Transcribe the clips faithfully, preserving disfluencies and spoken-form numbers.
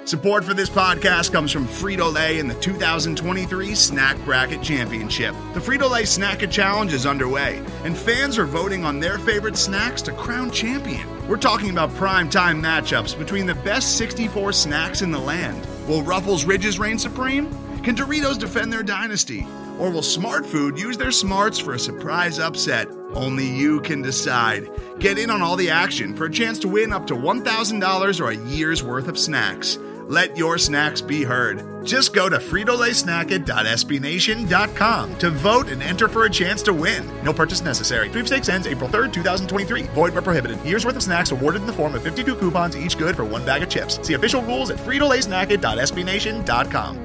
Support for this podcast comes from Frito-Lay and the two thousand twenty-three Snack Bracket Championship. The Frito-Lay Snack-A Challenge is underway, and fans are voting on their favorite snacks to crown champion. We're talking about prime-time matchups between the best sixty-four snacks in the land. Will Ruffles Ridges reign supreme? Can Doritos defend their dynasty? Or will Smart Food use their smarts for a surprise upset? Only you can decide. Get in on all the action for a chance to win up to one thousand dollars or a year's worth of snacks. Let your snacks be heard. Just go to Frito Lay Snack It dot S B Nation dot com to vote and enter for a chance to win. No purchase necessary. Sweepstakes ends April third, twenty twenty-three. Void where prohibited. Year's worth of snacks awarded in the form of fifty-two coupons, each good for one bag of chips. See official rules at Frito Lay Snack It dot S B Nation dot com.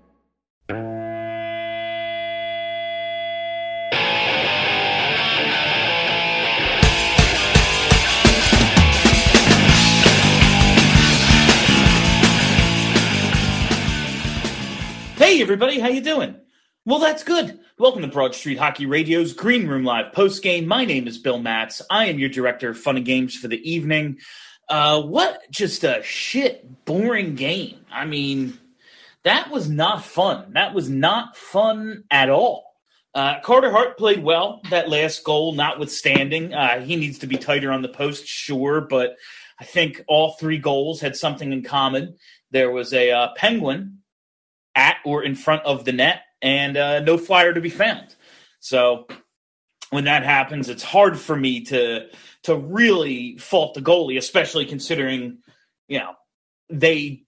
Hey everybody, how you doing? Well, that's good. Welcome to Broad Street Hockey Radio's Green Room Live postgame. My name is Bill Matz. I am your director of fun and games for the evening. Uh, what just a shit, boring game. I mean, that was not fun. That was not fun at all. Uh, Carter Hart played well, that last goal notwithstanding. Uh, he needs to be tighter on the post, sure, but I think all three goals had something in common. There was a uh, Penguin at or in front of the net, and uh, no Flyer to be found. So when that happens, it's hard for me to to really fault the goalie, especially considering, you know, they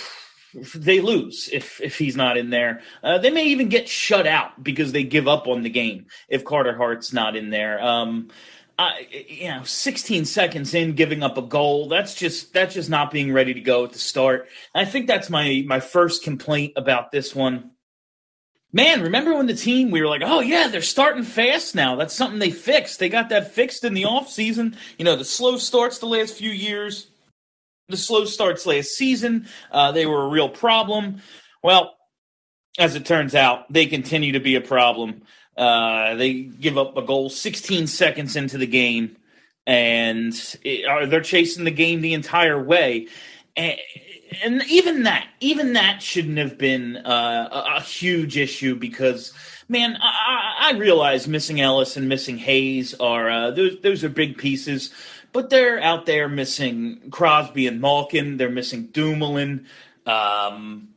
they lose if if he's not in there. Uh, they may even get shut out because they give up on the game if Carter Hart's not in there. Um, I, you know, sixteen seconds in, giving up a goal, that's just that's just not being ready to go at the start. And I think that's my my first complaint about this one. Man, remember when the team, we were like, oh, yeah, they're starting fast now. That's something they fixed. They got that fixed in the offseason. You know, the slow starts the last few years, the slow starts last season, uh, they were a real problem. Well, as it turns out, they continue to be a problem. Uh, they give up a goal sixteen seconds into the game, and it, they're chasing the game the entire way. And, and even that, even that shouldn't have been uh, a, a huge issue because, man, I, I realize missing Ellis and missing Hayes are uh, those those are big pieces, but they're out there missing Crosby and Malkin. They're missing Dumoulin. Um,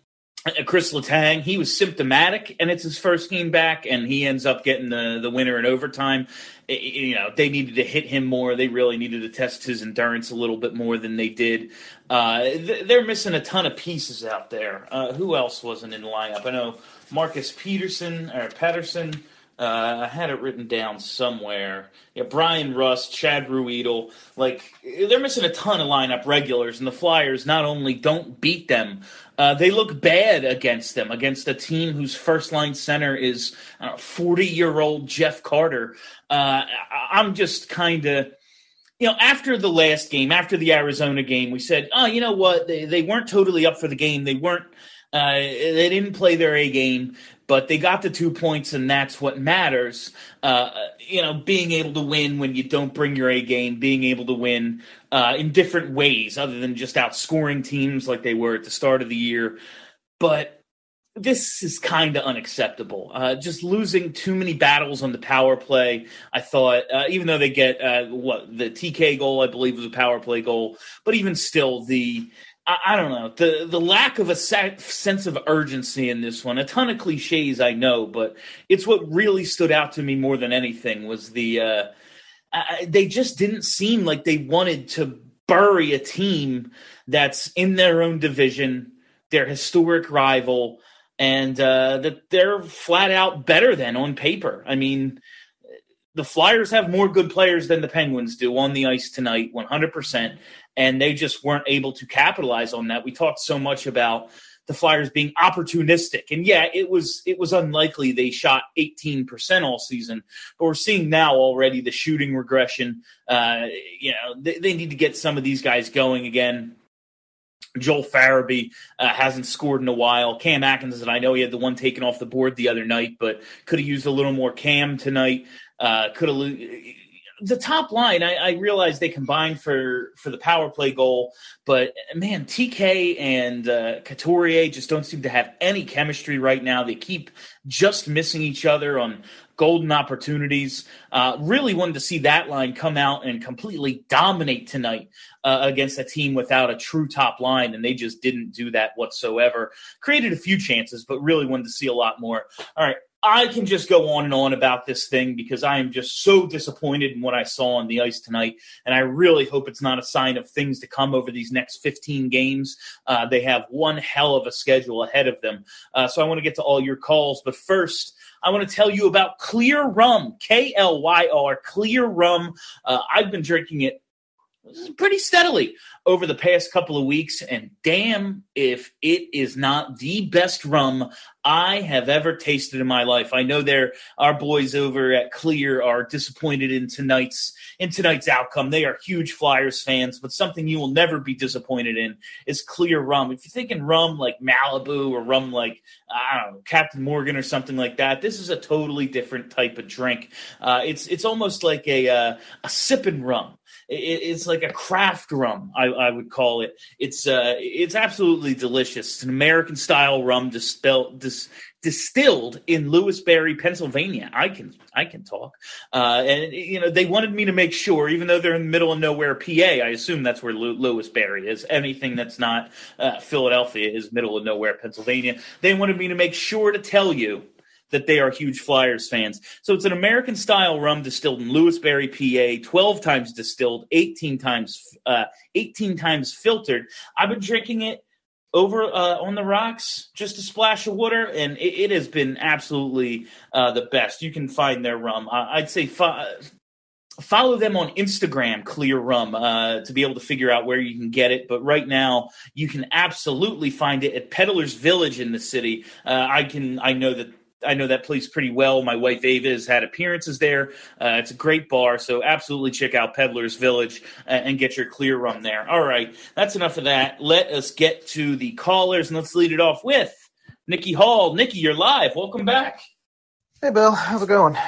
Chris Letang, he was symptomatic, and it's his first game back, and he ends up getting the, the winner in overtime. It, you know, they needed to hit him more. They really needed to test his endurance a little bit more than they did. Uh, they're missing a ton of pieces out there. Uh, who else wasn't in the lineup? I know Marcus Peterson or Patterson. Uh, I had it written down somewhere. Yeah, Brian Rust, Chad Ruedel. Like, they're missing a ton of lineup regulars, and the Flyers not only don't beat them, uh, they look bad against them, against a team whose first-line center is forty-year-old Jeff Carter. Uh, I'm just kind of, you know, after the last game, after the Arizona game, we said, oh, you know what, they, they weren't totally up for the game. They weren't, uh, they didn't play their A game. But they got the two points, and that's what matters. Uh, you know, being able to win when you don't bring your A game, being able to win uh, in different ways other than just outscoring teams like they were at the start of the year. But this is kind of unacceptable. Uh, just losing too many battles on the power play, I thought, uh, even though they get uh, what the T K goal, I believe, was a power play goal. But even still, the I don't know, the the lack of a sense of urgency in this one. A ton of cliches, I know, but it's what really stood out to me more than anything was the uh, I, they just didn't seem like they wanted to bury a team that's in their own division, their historic rival, and uh, that they're flat out better than on paper. I mean, the Flyers have more good players than the Penguins do on the ice tonight, one hundred percent. And they just weren't able to capitalize on that. We talked so much about the Flyers being opportunistic. And, yeah, it was it was unlikely they shot eighteen percent all season. But we're seeing now already the shooting regression. Uh, you know, they, they need to get some of these guys going again. Joel Farabee uh, hasn't scored in a while. Cam Atkinson, I know he had the one taken off the board the other night, but could have used a little more Cam tonight. Uh, could have the top line, I, I realize they combined for, for the power play goal, but man, T K and uh, Couturier just don't seem to have any chemistry right now. They keep just missing each other on golden opportunities. Uh, really wanted to see that line come out and completely dominate tonight uh, against a team without a true top line, and they just didn't do that whatsoever. Created a few chances, but really wanted to see a lot more. All right, I can just go on and on about this thing because I am just so disappointed in what I saw on the ice tonight, and I really hope it's not a sign of things to come over these next fifteen games. Uh, they have one hell of a schedule ahead of them. Uh, so I want to get to all your calls, but first, I want to tell you about Clear Rum, K L Y R, Clear Rum. Uh, I've been drinking it pretty steadily over the past couple of weeks, and damn if it is not the best rum I have ever tasted in my life. I know there our boys over at Clear are disappointed in tonight's in tonight's outcome. They are huge Flyers fans, but something you will never be disappointed in is Clear Rum. If you're thinking rum like Malibu or rum like, I don't know, Captain Morgan or something like that, this is a totally different type of drink. Uh, it's it's almost like a uh, a sipping rum. It's like a craft rum, I, I would call it. It's uh, it's absolutely delicious. It's an American-style rum dispelled, dis, distilled in Lewisberry, Pennsylvania. I can I can talk. Uh, and, you know, they wanted me to make sure, even though they're in the middle of nowhere, P A, I assume that's where Lew- Lewisberry is. Anything that's not uh, Philadelphia is middle of nowhere, Pennsylvania. They wanted me to make sure to tell you that they are huge Flyers fans. So it's an American-style rum distilled in Lewisberry, P A, twelve times distilled, eighteen times uh, eighteen times filtered. I've been drinking it over uh, on the rocks, just a splash of water, and it, it has been absolutely uh, the best. You can find their rum. Uh, I'd say fo- follow them on Instagram, Clear Rum, uh, to be able to figure out where you can get it. But right now, you can absolutely find it at Peddler's Village in the city. Uh, I can. I know that. I know that place pretty well. My wife Ava has had appearances there. Uh, it's a great bar, so absolutely check out Peddler's Village uh, and get your Clear Rum there. All right, that's enough of that. Let us get to the callers, and let's lead it off with Nikki Hall. Nikki, you're live. Welcome back. Hey, Bill. How's it going?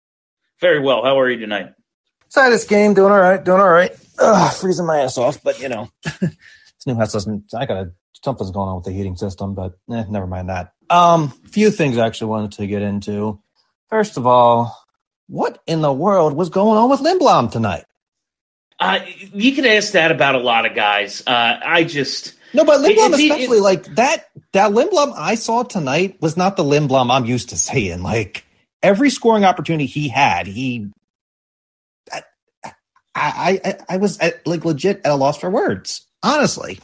Very well. How are you tonight? Inside this game, doing all right, doing all right. Ugh, freezing my ass off, but, you know, this new house doesn't – I got to – something's going on with the heating system, but eh, never mind that. Um, few things I actually wanted to get into. First of all, what in the world was going on with Lindblom tonight? Uh, you could ask that about a lot of guys. Uh, I just no, but Lindblom it, it, especially it, like that. That Lindblom I saw tonight was not the Lindblom I'm used to seeing. Like every scoring opportunity he had, he, I, I, I, I was at, like legit at a loss for words. Honestly.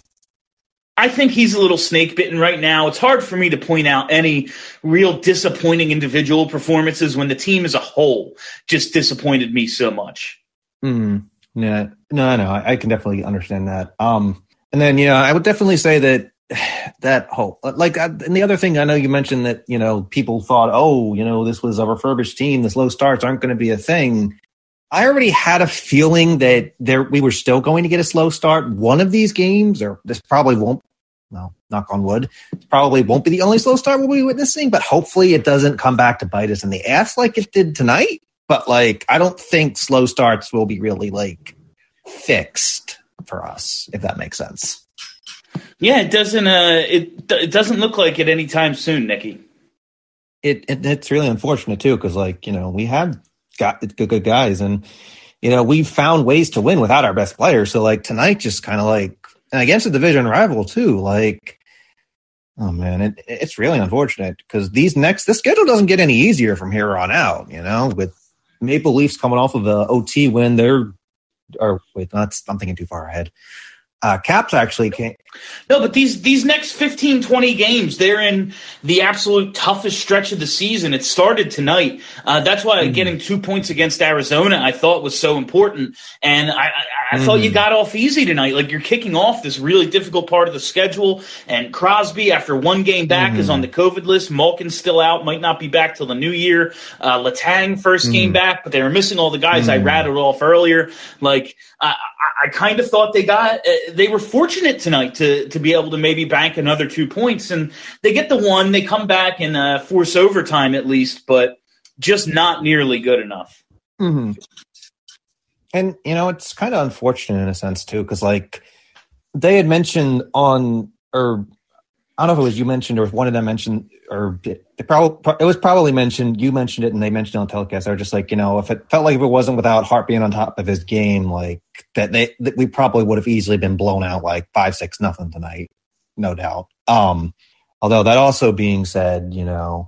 I think he's a little snake bitten right now. It's hard for me to point out any real disappointing individual performances when the team as a whole just disappointed me so much. Mm, yeah, no, no, I, I can definitely understand that. Um, and then, you know, I would definitely say that that whole, like, and the other thing I know you mentioned that, you know, people thought, oh, you know, this was a refurbished team. The slow starts aren't going to be a thing. I already had a feeling that there we were still going to get a slow start one of these games, or this probably won't, well, knock on wood, probably won't be the only slow start we'll be witnessing, but hopefully it doesn't come back to bite us in the ass like it did tonight. But, like, I don't think slow starts will be really, like, fixed for us, if that makes sense. Yeah, it doesn't uh, it, it doesn't look like it anytime soon, Nikki. It, it It's really unfortunate, too, because, like, you know, we have got good, good guys, and, you know, we've found ways to win without our best players. So, like, tonight just kind of, like, and against a division rival, too, like, oh, man, it, it's really unfortunate because these next, the schedule doesn't get any easier from here on out, you know, with Maple Leafs coming off of a O T win. They're, or wait, that's, I'm thinking too far ahead. Uh, Caps actually can't. No, but these these next fifteen, twenty games, they're in the absolute toughest stretch of the season. It started tonight. Uh, that's why mm-hmm. getting two points against Arizona I thought was so important. And I, I, I mm-hmm. thought you got off easy tonight. Like, you're kicking off this really difficult part of the schedule. And Crosby, after one game back, mm-hmm. is on the COVID list. Malkin's still out, might not be back till the new year. Uh, Letang, first mm-hmm. game back, but they were missing all the guys mm-hmm. I rattled off earlier. Like, I, I, I kind of thought they got uh, – they were fortunate tonight to to be able to maybe bank another two points, and they get the one. They come back and uh, force overtime at least, but just not nearly good enough. Mm-hmm. And, you know, it's kind of unfortunate in a sense, too, because, like, they had mentioned on, or I don't know if it was you mentioned or if one of them mentioned, or it, probably, it was probably mentioned, you mentioned it and they mentioned it on telecast. They were just like, you know, if it felt like if it wasn't without Hart being on top of his game, like, that they that we probably would have easily been blown out like five, six, nothing tonight, no doubt. Um, although that also being said, you know,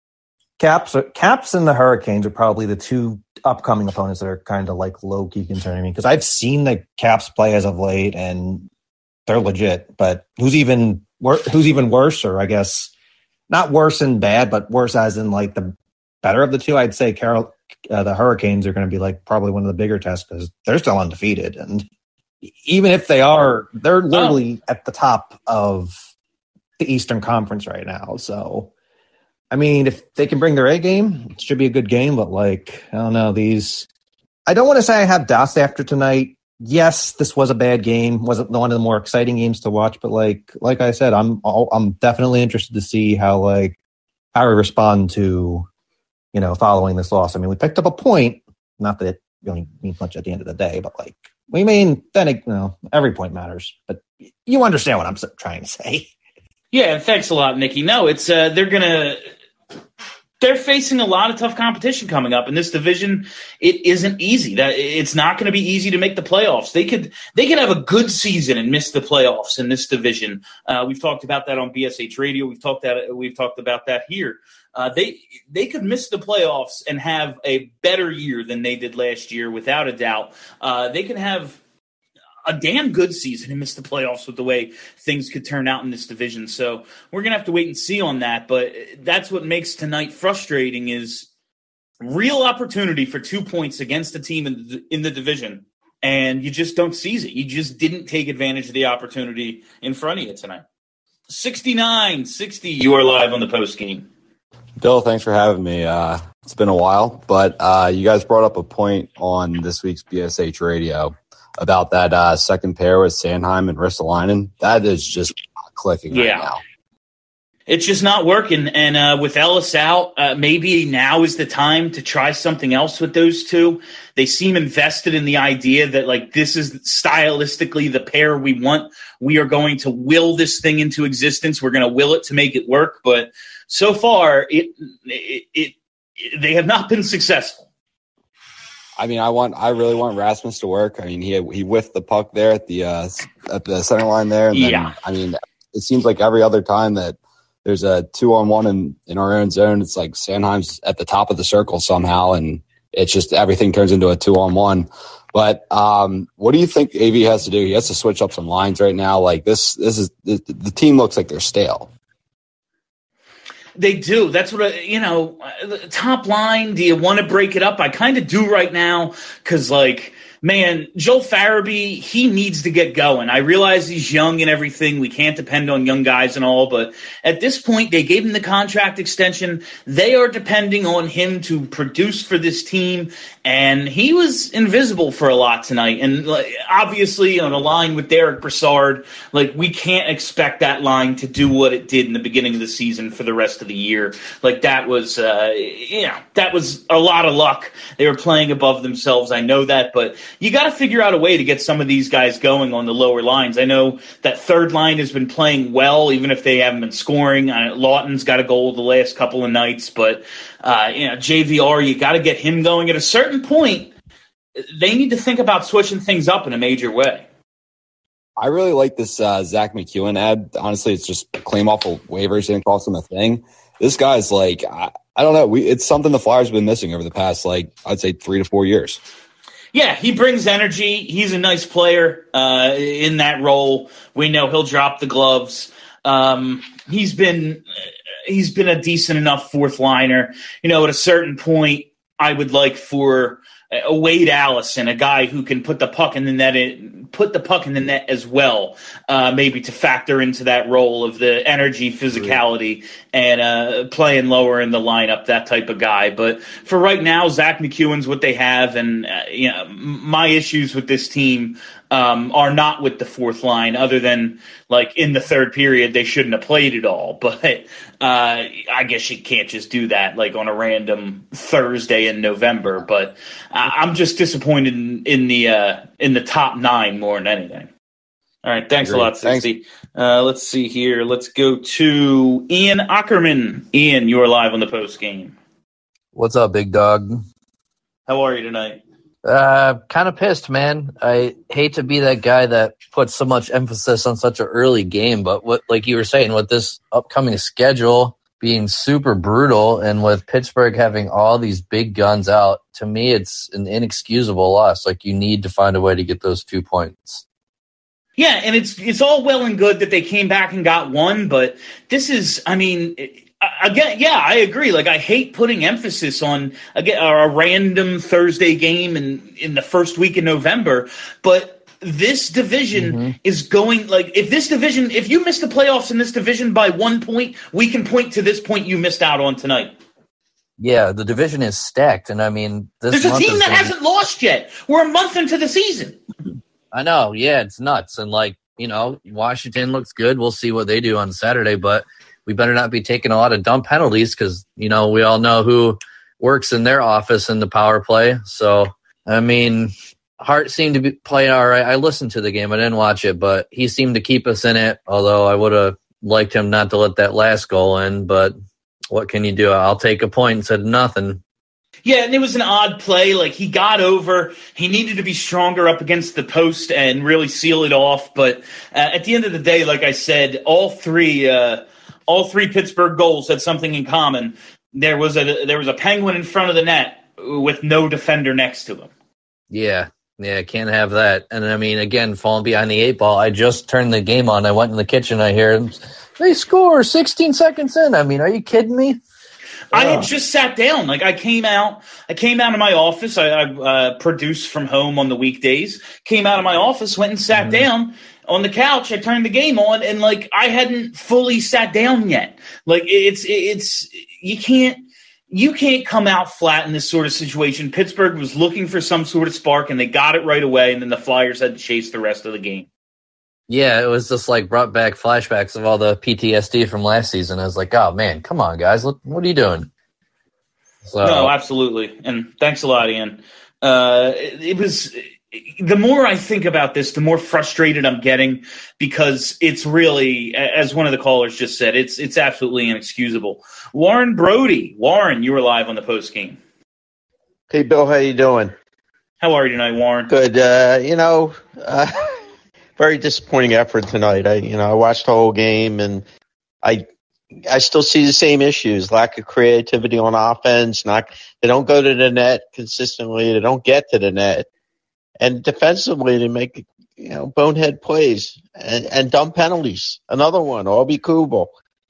Caps, are, Caps and the Hurricanes are probably the two upcoming opponents that are kind of like low-key concerning me because I've seen the Caps play as of late and they're legit. But who's even wor- who's even worse, or I guess not worse and bad, but worse as in like the better of the two? I'd say Carol, uh, the Hurricanes are going to be like probably one of the bigger tests because they're still undefeated, and even if they are, they're literally oh. at the top of the Eastern Conference right now. So. I mean, if they can bring their A game, it should be a good game. But, like, I don't know, these – I don't want to say I have doubts after tonight. Yes, this was a bad game. Wasn't one of the more exciting games to watch. But, like like I said, I'm I'm definitely interested to see how, like, how we respond to, you know, following this loss. I mean, we picked up a point. Not that it really means much at the end of the day. But, like, we mean, then, it, you know, every point matters. But you understand what I'm trying to say. Yeah, thanks a lot, Nikki. No, it's uh, – they're going to – they're facing a lot of tough competition coming up in this division. It isn't easy. That it's not going to be easy to make the playoffs. They could they could have a good season and miss the playoffs in this division. Uh, we've talked about that on B S H Radio. We've talked that we've talked about that here. Uh, they they could miss the playoffs and have a better year than they did last year, without a doubt. Uh, they could have a damn good season and miss the playoffs with the way things could turn out in this division. So we're going to have to wait and see on that. But that's what makes tonight frustrating, is real opportunity for two points against a team in the, in the division. And you just don't seize it. You just didn't take advantage of the opportunity in front of you tonight. sixty-nine sixty, you are live on the post game. Bill, thanks for having me. Uh, it's been a while, but uh, you guys brought up a point on this week's B S H Radio about that uh, second pair with Sanheim and Ristolainen. That is just clicking yeah. right now. It's just not working. And uh, with Ellis out, uh, maybe now is the time to try something else with those two. They seem invested in the idea that, like, this is stylistically the pair we want. We are going to will this thing into existence. We're going to will it to make it work. But so far, it, it, it, it they have not been successful. I mean, I want, I really want Rasmus to work. I mean, he he whiffed the puck there at the uh, at the center line there. And then, yeah. I mean, it seems like every other time that there's a two on one in, in our own zone, it's like Sanheim's at the top of the circle somehow, and it's just everything turns into a two on one. But um, what do you think A V has to do? He has to switch up some lines right now. Like this, this is the, the team looks like they're stale. They do. That's what, I, you know, the top line, do you want to break it up? I kind of do right now because, like, man, Joel Farabee, he needs to get going. I realize he's young and everything. We can't depend on young guys and all, but at this point, they gave him the contract extension. They are depending on him to produce for this team, and he was invisible for a lot tonight. And like, obviously, on a line with Derek Brassard, like, we can't expect that line to do what it did in the beginning of the season for the rest of the year. Like, that was, uh, yeah, that was a lot of luck. They were playing above themselves. I know that, but you got to figure out a way to get some of these guys going on the lower lines. I know that third line has been playing well, even if they haven't been scoring. Uh, Lawton's got a goal the last couple of nights, but uh, you know, J V R, you got to get him going. At a certain point, they need to think about switching things up in a major way. I really like this uh, Zach McEwen ad. Honestly, it's just claim off of waivers, didn't cost him a thing. This guy's like, I, I don't know. We, it's something the Flyers have been missing over the past, like, I'd say three to four years. Yeah, he brings energy. He's a nice player uh, in that role. We know he'll drop the gloves. Um, he's been he's been a decent enough fourth liner. You know, at a certain point, I would like for a Wade Allison, a guy who can put the puck in the net, put the puck in the net as well, uh, maybe to factor into that role of the energy, physicality, and uh, playing lower in the lineup, that type of guy. But for right now, Zach McEwen's what they have, and uh, you know, my issues with this team um, are not with the fourth line, other than like in the third period they shouldn't have played at all. But uh, I guess you can't just do that like on a random Thursday in November. But uh, I'm just disappointed in, in the uh, in the top nine more than anything. All right, thanks Great. a lot, sixty. Uh, let's see here. Let's go to Ian Ackerman. Ian, you are live on the post game. What's up, big dog? How are you tonight? Uh, kind of pissed, man. I hate to be that guy that puts so much emphasis on such an early game, but what, like you were saying, with this upcoming schedule being super brutal and with Pittsburgh having all these big guns out, to me, it's an inexcusable loss. Like, you need to find a way to get those two points. Yeah, and it's it's all well and good that they came back and got one, but this is, I mean, again, yeah, I agree. Like, I hate putting emphasis on again a random Thursday game in, in the first week in November, but this division mm-hmm. is going, like, if this division, if you miss the playoffs in this division by one point, we can point to this point you missed out on tonight. Yeah, the division is stacked, and I mean, this there's a month team that gonna... hasn't lost yet. We're a month into the season. I know, yeah, it's nuts. And, like, you know, Washington looks good. We'll see what they do on Saturday, but we better not be taking a lot of dumb penalties because, you know, we all know who works in their office in the power play. So, I mean, Hart seemed to be playing all right. I listened to the game. I didn't watch it, but he seemed to keep us in it, although I would have liked him not to let that last goal in. But what can you do? I'll take a point instead of nothing. Yeah, and it was an odd play. Like, he got over. He needed to be stronger up against the post and really seal it off. But uh, at the end of the day, like I said, all three uh, all three Pittsburgh goals had something in common. There was a there was a penguin in front of the net with no defender next to him. Yeah, yeah, can't have that. And, I mean, again, falling behind the eight ball. I just turned the game on. I went in the kitchen. I hear they score sixteen seconds in. I mean, are you kidding me? I had just sat down. Like, I came out, I came out of my office. I, I uh, produce from home on the weekdays. Came out of my office, went and sat mm-hmm. down on the couch. I turned the game on, and like I hadn't fully sat down yet. Like, it's it's you can't you can't come out flat in this sort of situation. Pittsburgh was looking for some sort of spark, and they got it right away. And then the Flyers had to chase the rest of the game. Yeah, it was just like brought back flashbacks of all the P T S D from last season. I was like, oh, man, come on, guys. What, what are you doing? So, no, absolutely. And thanks a lot, Ian. Uh, it, it was the more I think about this, the more frustrated I'm getting because it's really, as one of the callers just said, it's it's absolutely inexcusable. Warren Brody. Warren, you were live on the post game. Hey, Bill, how you doing? How are you tonight, Warren? Good. Uh, you know, uh, very disappointing effort tonight. I, you know, I watched the whole game, and I, I still see the same issues: lack of creativity on offense. Not they don't go to the net consistently. They don't get to the net, and defensively they make you know bonehead plays and, and dumb penalties. Another one, Obi Kubel.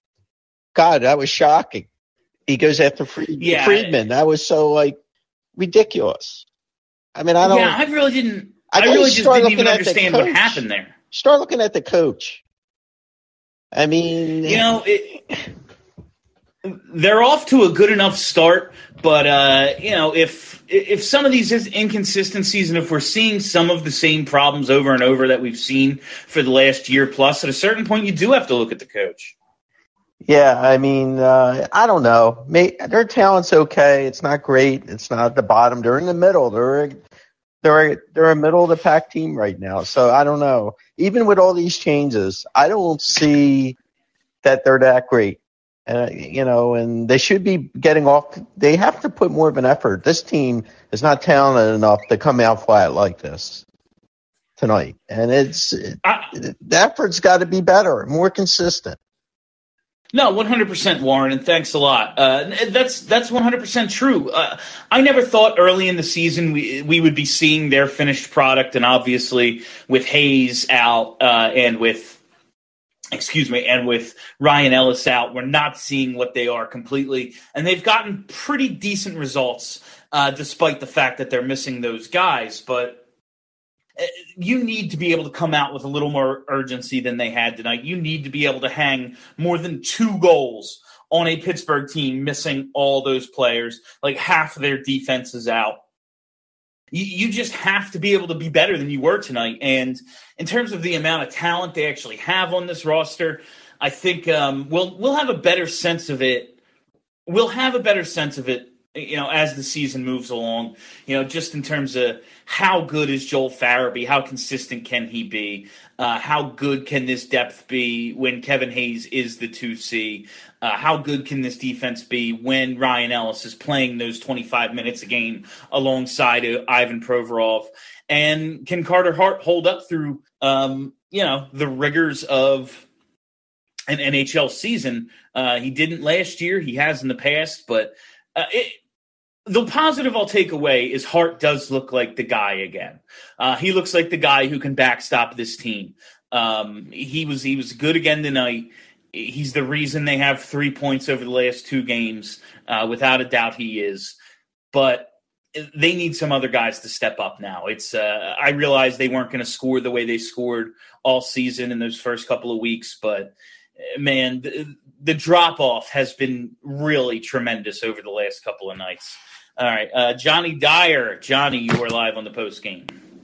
God, that was shocking. He goes after Fried- yeah. Friedman. That was so like ridiculous. I mean, I don't. Yeah, I really didn't. I, I really just didn't even understand what happened there. Start looking at the coach. I mean, you know, it, they're off to a good enough start, but uh, you know, if if some of these inconsistencies and if we're seeing some of the same problems over and over that we've seen for the last year plus, at a certain point, you do have to look at the coach. Yeah, I mean, uh, I don't know. May, their talent's okay. It's not great. It's not at the bottom. They're in the middle. They're they're they're a middle of the pack team right now. So I don't know. Even with all these changes, I don't see that they're that great. Uh, you know, and they should be getting off. They have to put more of an effort. This team is not talented enough to come out flat like this tonight. And it's I, the effort's got to be better, more consistent. No, one hundred percent, Warren, and thanks a lot. Uh, that's that's one hundred percent true. Uh, I never thought early in the season we we would be seeing their finished product, and obviously with Hayes out uh, and with, excuse me, and with Ryan Ellis out, we're not seeing what they are completely. And they've gotten pretty decent results uh, despite the fact that they're missing those guys. But you need to be able to come out with a little more urgency than they had tonight. You need to be able to hang more than two goals on a Pittsburgh team missing all those players. Like half of their defense is out. You, you just have to be able to be better than you were tonight. And in terms of the amount of talent they actually have on this roster, I think um, we'll we'll have a better sense of it. We'll have a better sense of it, you know, as the season moves along, you know, just in terms of how good is Joel Farabee, how consistent can he be, uh, how good can this depth be when Kevin Hayes is the two C, uh, how good can this defense be when Ryan Ellis is playing those twenty-five minutes a game alongside uh, Ivan Provorov, and can Carter Hart hold up through, um, you know, the rigors of an N H L season. Uh, he didn't last year, he has in the past, but uh, it, the positive I'll take away is Hart does look like the guy again. Uh, he looks like the guy who can backstop this team. Um, he was he was good again tonight. He's the reason they have three points over the last two games. Uh, without a doubt, he is. But they need some other guys to step up now. It's uh, I realized they weren't going to score the way they scored all season in those first couple of weeks, but man, the, the drop-off has been really tremendous over the last couple of nights. All right, uh, Johnny Dyer. Johnny, you are live on the post game.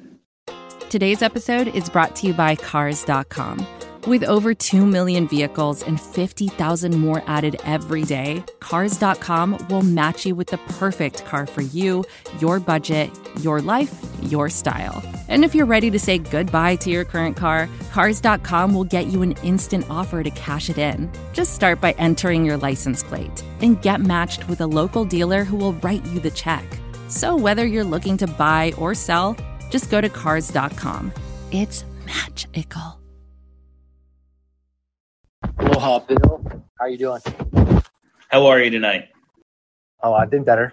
Today's episode is brought to you by Cars dot com. With over two million vehicles and fifty thousand more added every day, Cars dot com will match you with the perfect car for you, your budget, your life, your style. And if you're ready to say goodbye to your current car, Cars dot com will get you an instant offer to cash it in. Just start by entering your license plate and get matched with a local dealer who will write you the check. So whether you're looking to buy or sell, just go to Cars dot com. It's magical. Aloha, Bill. How are you doing? How are you tonight? Oh, I've been better.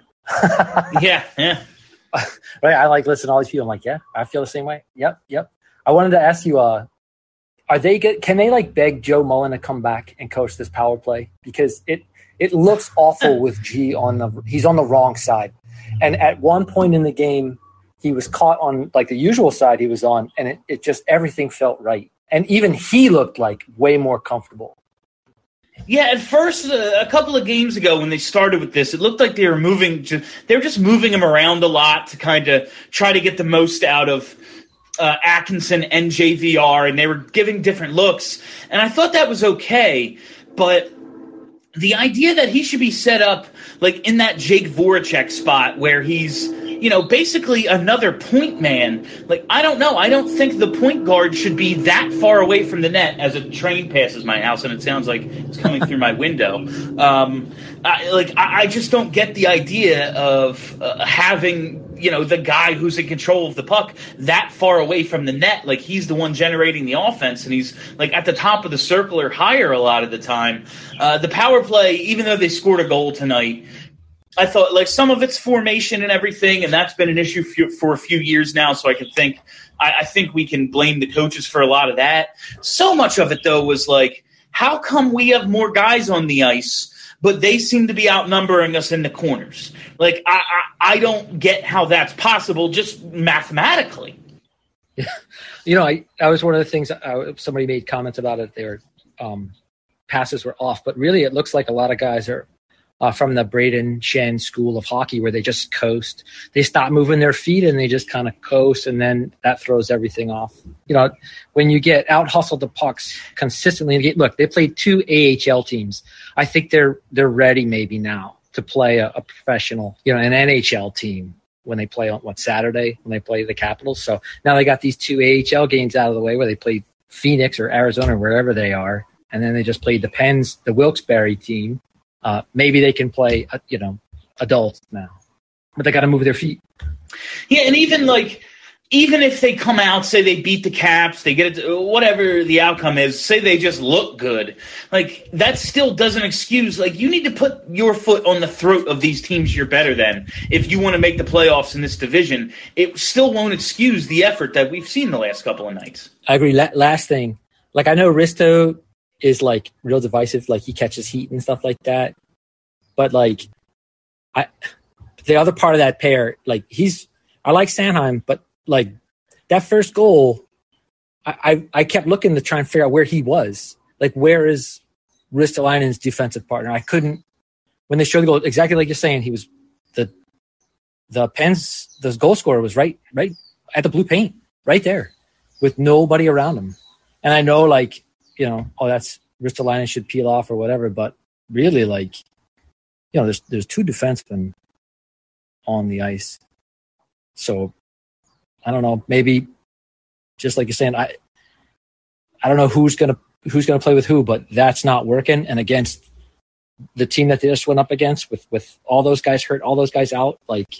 yeah, yeah. Right, I like listening to all these people. I'm like, yeah, I feel the same way. Yep, yep. I wanted to ask you, uh, are they get? Can they like beg Joe Mullen to come back and coach this power play, because it it looks awful with G on the he's on the wrong side, and at one point in the game he was caught on like the usual side he was on, and it, it just everything felt right. And even he looked like way more comfortable. Yeah, at first, uh, a couple of games ago when they started with this, it looked like they were moving. To, they were just moving him around a lot to kind of try to get the most out of uh, Atkinson and J V R, and they were giving different looks. And I thought that was okay, but the idea that he should be set up like in that Jake Voracek spot where he's, you know, basically another point man. Like, I don't know. I don't think the point guard should be that far away from the net as a train passes my house, and it sounds like it's coming through my window. Um, I, like, I, I just don't get the idea of uh, having, you know, the guy who's in control of the puck that far away from the net. Like, he's the one generating the offense, and he's, like, at the top of the circle or higher a lot of the time. Uh, the power play, even though they scored a goal tonight, I thought, like, some of it's formation and everything, and that's been an issue for, for a few years now, so I can think I, I think we can blame the coaches for a lot of that. So much of it, though, was like, how come we have more guys on the ice, but they seem to be outnumbering us in the corners? Like, I, I, I don't get how that's possible just mathematically. Yeah. You know, I, that was one of the things, I, somebody made comments about it. Their um, passes were off, but really it looks like a lot of guys are Uh, from the Braden Shen school of hockey, where they just coast. They stop moving their feet and they just kind of coast, and then that throws everything off. You know, when you get out hustled the pucks consistently, look, they played two A H L teams. I think they're they're ready maybe now to play a, a professional, you know, an N H L team when they play on what Saturday when they play the Capitals. So now they got these two A H L games out of the way, where they played Phoenix or Arizona or wherever they are, and then they just played the Pens, the Wilkes-Barre team. Uh, maybe they can play, uh, you know, adults now, but they got to move their feet. Yeah, and even like, even if they come out, say they beat the Caps, they get it, whatever the outcome is, say they just look good, like that still doesn't excuse. Like, you need to put your foot on the throat of these teams you're better than if you want to make the playoffs in this division. It still won't excuse the effort that we've seen the last couple of nights. I agree. La- last thing, like I know Risto is like real divisive, like he catches heat and stuff like that. But like, I, the other part of that pair, like he's, I like Sanheim, but like that first goal, I, I, I kept looking to try and figure out where he was. Like, where is Ristolainen's defensive partner? I couldn't, when they showed the goal, exactly like you're saying, he was, the the Pens, the goal scorer was right, right at the blue paint, right there, with nobody around him. And I know, like, you know, oh, that's Ristolainen should peel off or whatever, but really, like, you know, there's there's two defensemen on the ice. So I don't know, maybe just like you're saying, I I don't know who's gonna who's gonna play with who, but that's not working. And against the team that they just went up against, with with all those guys hurt, all those guys out, like,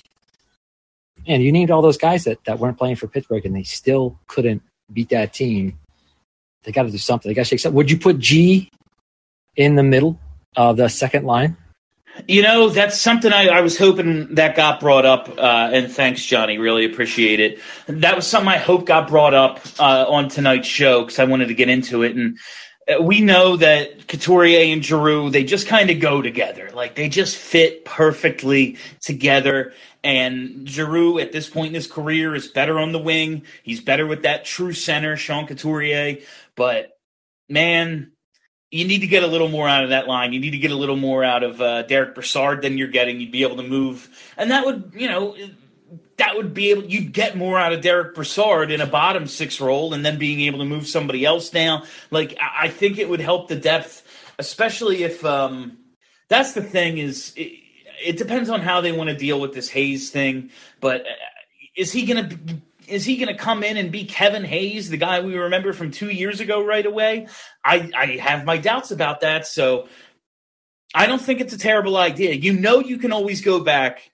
and you named all those guys that, that weren't playing for Pittsburgh, and they still couldn't beat that team. They got to do something. They got to shake something. Would you put G in the middle of the second line? You know, that's something I, I was hoping that got brought up, uh, and thanks, Johnny. Really appreciate it. That was something I hope got brought up uh, on tonight's show because I wanted to get into it. And we know that Couturier and Giroux, they just kind of go together. Like, they just fit perfectly together. And Giroux, at this point in his career, is better on the wing. He's better with that true center, Sean Couturier. But, man, you need to get a little more out of that line. You need to get a little more out of uh, Derek Brassard than you're getting. You'd be able to move. And that would, you know, that would be able – you'd get more out of Derek Brassard in a bottom six role and then being able to move somebody else down. Like, I think it would help the depth, especially if um, – that's the thing is it, it depends on how they want to deal with this Hayes thing. But is he going to – Is he going to come in and be Kevin Hayes, the guy we remember from two years ago right away? I, I have my doubts about that, so I don't think it's a terrible idea. You know you can always go back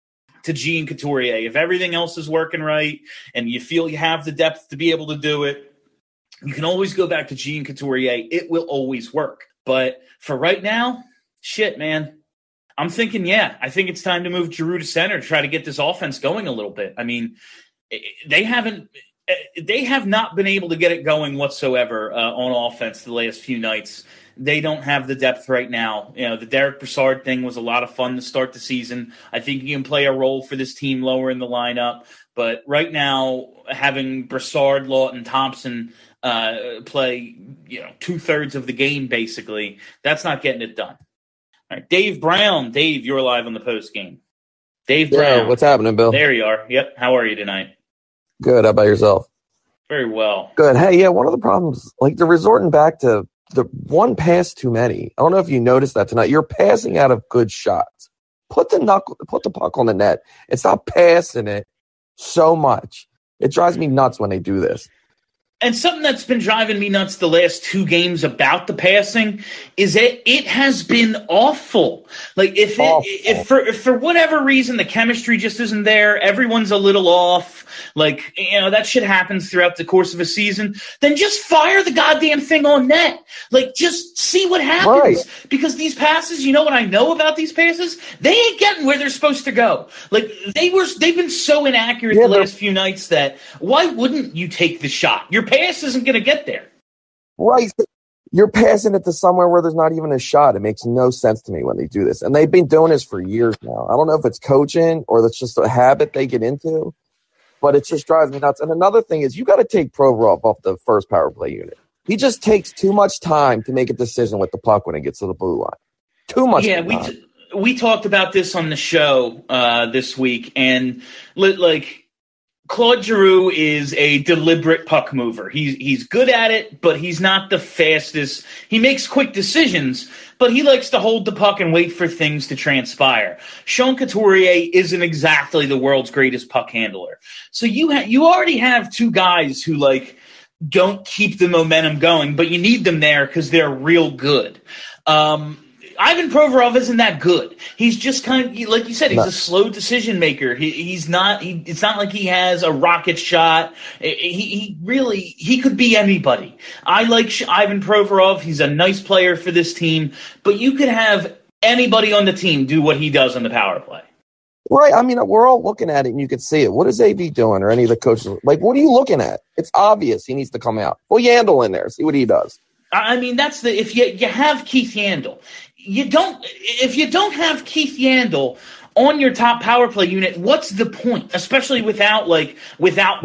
to G and Couturier. If everything else is working right and you feel you have the depth to be able to do it, you can always go back to G and Couturier. It will always work. But for right now, shit, man. I'm thinking, yeah, I think it's time to move Giroux to center to try to get this offense going a little bit. I mean, They haven't. They have not been able to get it going whatsoever uh, on offense the last few nights. They don't have the depth right now. You know, the Derek Brassard thing was a lot of fun to start the season. I think he can play a role for this team lower in the lineup. But right now, having Brassard, Lawton, Thompson uh, play, you know, two thirds of the game basically, that's not getting it done. All right, Dave Brown. Dave, you're live on the post game. Dave Brown. Yeah, what's happening, Bill? There you are. Yep. How are you tonight? Good. How about yourself? Very well. Good. Hey, yeah, one of the problems, like they're resorting back to the one pass too many. I don't know if you noticed that tonight. You're passing out of good shots. Put the knuckle, put the puck on the net. It's not passing it so much. It drives me nuts when they do this. And something that's been driving me nuts the last two games about the passing is that it has been awful. Like if it, awful. if for if for whatever reason the chemistry just isn't there, everyone's a little off. Like, you know, that shit happens throughout the course of a season. Then just fire the goddamn thing on net. Like, just see what happens. Right. Because these passes, you know what I know about these passes? They ain't getting where they're supposed to go. Like they were, they've been so inaccurate yeah, the last few nights that why wouldn't you take the shot? Your pass isn't going to get there. Right. You're passing it to somewhere where there's not even a shot. It makes no sense to me when they do this. And they've been doing this for years now. I don't know if it's coaching or that's just a habit they get into, but it just drives me nuts. And another thing is you got to take Provorov off the first power play unit. He just takes too much time to make a decision with the puck when it gets to the blue line. Too much yeah, time. we t- we talked about this on the show uh, this week, and like Claude Giroux is a deliberate puck mover. He's he's good at it, but he's not the fastest. He makes quick decisions, but he likes to hold the puck and wait for things to transpire. Sean Couturier isn't exactly the world's greatest puck handler. So you ha- you already have two guys who like don't keep the momentum going, but you need them there because they're real good. Um, Ivan Provorov isn't that good. He's just kind of, like you said, he's no. a slow decision maker. He, he's not, he, it's not like he has a rocket shot. He, he really, he could be anybody. I like Ivan Provorov. He's a nice player for this team, but you could have anybody on the team do what he does on the power play. Right. I mean, we're all looking at it and you can see it. What is A V doing or any of the coaches? Like, what are you looking at? It's obvious he needs to come out. Well, Yandel in there. See what he does. I mean, that's the, if you, you have Keith Yandel, you don't, if you don't have Keith Yandel on your top power play unit, what's the point? Especially without like, without right. that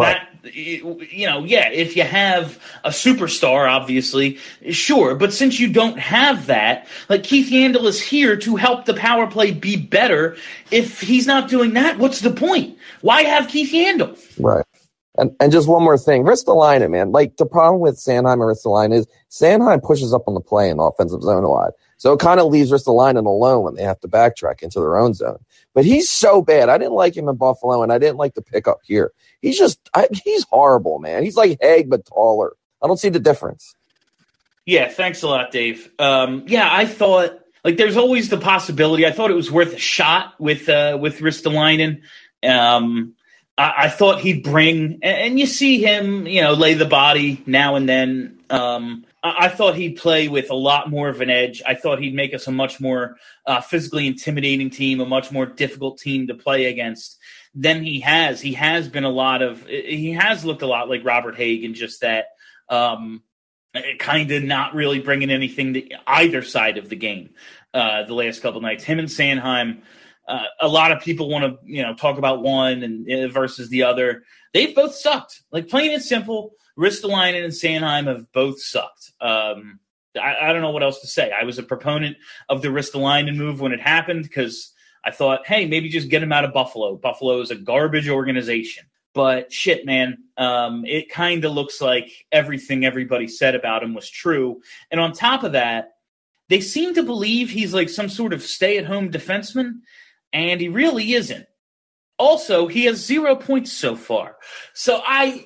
you know, yeah, if you have a superstar, obviously, sure. But since you don't have that, like Keith Yandle is here to help the power play be better. If he's not doing that, what's the point? Why have Keith Yandle? Right. And and just one more thing, Ristolainen, man. Like the problem with Sanheim and Ristolainen is Sanheim pushes up on the play in the offensive zone a lot, so it kind of leaves Ristolainen alone when they have to backtrack into their own zone. But he's so bad. I didn't like him in Buffalo, and I didn't like the pickup here. He's just I, he's horrible, man. He's like Haig but taller. I don't see the difference. Yeah, thanks a lot, Dave. Um, yeah, I thought like there's always the possibility. I thought it was worth a shot with uh, with Ristolainen. Um, I, I thought he'd bring, and, and you see him, you know, lay the body now and then. Um, I, I thought he'd play with a lot more of an edge. I thought he'd make us a much more uh, physically intimidating team, a much more difficult team to play against than he has. He has been a lot of, he has looked a lot like Robert Haig in just that, um, kind of not really bringing anything to either side of the game uh, the last couple of nights. Him and Sanheim. Uh, a lot of people want to, you know, talk about one and uh, versus the other. They've both sucked. Like plain and simple, Ristolainen and Sanheim have both sucked. Um, I, I don't know what else to say. I was a proponent of the Ristolainen move when it happened because I thought, hey, maybe just get him out of Buffalo. Buffalo is a garbage organization. But shit, man, um, it kind of looks like everything everybody said about him was true. And on top of that, they seem to believe he's like some sort of stay-at-home defenseman. And he really isn't. Also, he has zero points so far. So I,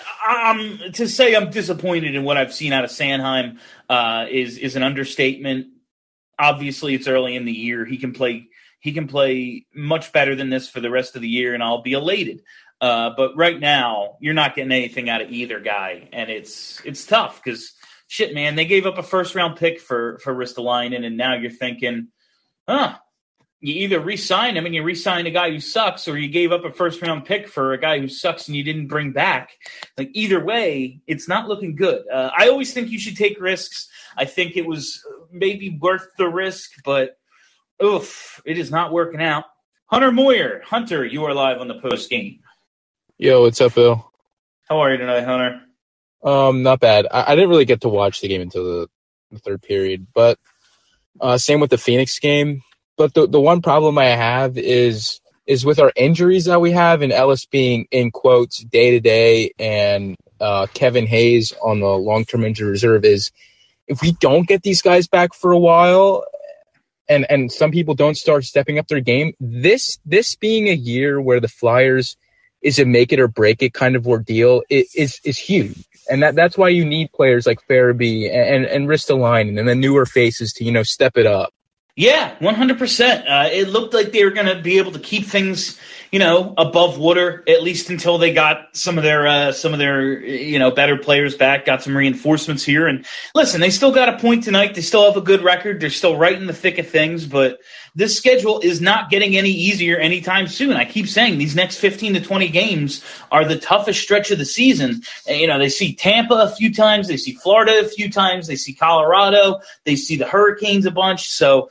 um, to say I'm disappointed in what I've seen out of Sanheim uh, is is an understatement. Obviously, it's early in the year. He can play. He can play much better than this for the rest of the year, and I'll be elated. Uh, but right now, you're not getting anything out of either guy, and it's it's tough because shit, man. They gave up a first round pick for for Ristolainen, and now you're thinking, huh. You either re-sign him and you re-sign a guy who sucks, or you gave up a first-round pick for a guy who sucks and you didn't bring back. Like either way, it's not looking good. Uh, I always think you should take risks. I think it was maybe worth the risk, but oof, it is not working out. Hunter Moyer, Hunter, you are live on the post game. Yo, what's up, Bill? How are you tonight, Hunter? Um, not bad. I, I didn't really get to watch the game until the, the third period, but uh, same with the Phoenix game. But the the one problem I have is is with our injuries that we have, and Ellis being in quotes day to day, and uh, Kevin Hayes on the long term injury reserve. Is if we don't get these guys back for a while, and and some people don't start stepping up their game, this this being a year where the Flyers is a make it or break it kind of ordeal it, is is huge, and that that's why you need players like Farabee and and, and Ristolainen and the newer faces to you know step it up. Yeah, one hundred percent. Uh, it looked like they were going to be able to keep things, you know, above water, at least until they got some of their uh, some of their, you know, better players back, got some reinforcements here. And listen, they still got a point tonight. They still have a good record. They're still right in the thick of things. But this schedule is not getting any easier anytime soon. I keep saying these next fifteen to twenty games are the toughest stretch of the season. And, you know, they see Tampa a few times. They see Florida a few times. They see Colorado. They see the Hurricanes a bunch. So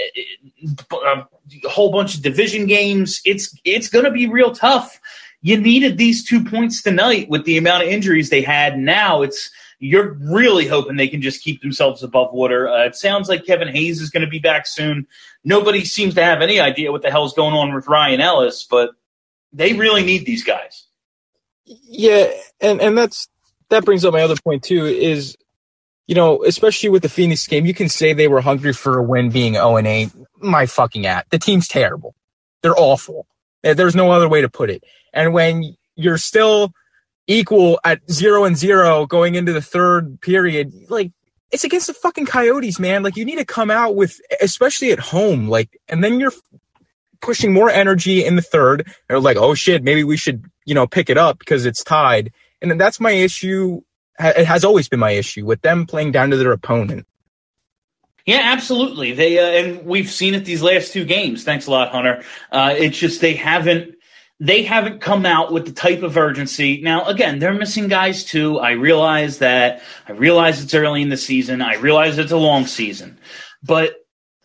a whole bunch of division games. It's it's going to be real tough. You needed these two points tonight with the amount of injuries they had. Now it's you're really hoping they can just keep themselves above water. Uh, it sounds like Kevin Hayes is going to be back soon. Nobody seems to have any idea what the hell's going on with Ryan Ellis, but they really need these guys. Yeah, and, and that's that brings up my other point too is, you know, especially with the Phoenix game, you can say they were hungry for a win being oh and eight. My fucking at. The team's terrible. They're awful. There's no other way to put it. And when you're still equal at zero and zero going into the third period, like, it's against the fucking Coyotes, man. Like, you need to come out with, especially at home, like, and then you're pushing more energy in the third. They're like, oh shit, maybe we should, you know, pick it up because it's tied. And then that's my issue. It has always been my issue with them playing down to their opponent. Yeah, absolutely. They uh, and we've seen it these last two games. Thanks a lot, Hunter. Uh, it's just they haven't they haven't come out with the type of urgency. Now, again, they're missing guys too. I realize that. I realize it's early in the season. I realize it's a long season, but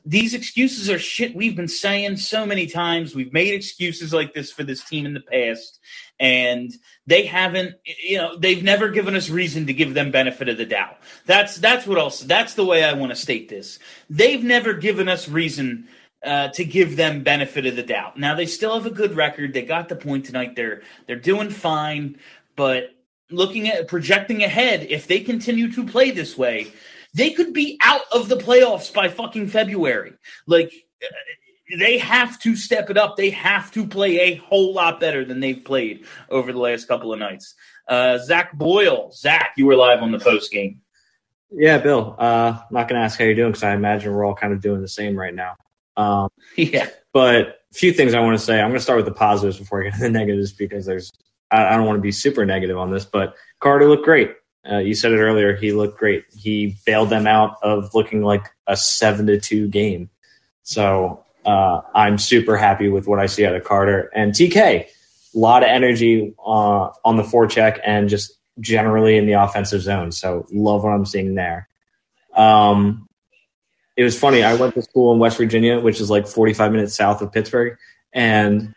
these excuses are shit we've been saying so many times. We've made excuses like this for this team in the past, and they haven't, you know, they've never given us reason to give them benefit of the doubt. That's that's what else. That's the way I want to state this. They've never given us reason uh, to give them benefit of the doubt. Now they still have a good record. They got the point tonight. They're they're doing fine, but looking at projecting ahead, if they continue to play this way, they could be out of the playoffs by fucking February. Like, they have to step it up. They have to play a whole lot better than they've played over the last couple of nights. Uh, Zach Boyle. Zach, you were live on the post game. Yeah, Bill. Uh, I'm not going to ask how you're doing because I imagine we're all kind of doing the same right now. Um, yeah. But a few things I want to say. I'm going to start with the positives before I get to the negatives because there's I, I don't want to be super negative on this, but Carter looked great. Uh, you said it earlier. He looked great. He bailed them out of looking like a seven to two game. So uh, I'm super happy with what I see out of Carter and T K. A lot of energy uh, on the forecheck and just generally in the offensive zone. So love what I'm seeing there. Um, it was funny. I went to school in West Virginia, which is like forty-five minutes south of Pittsburgh, and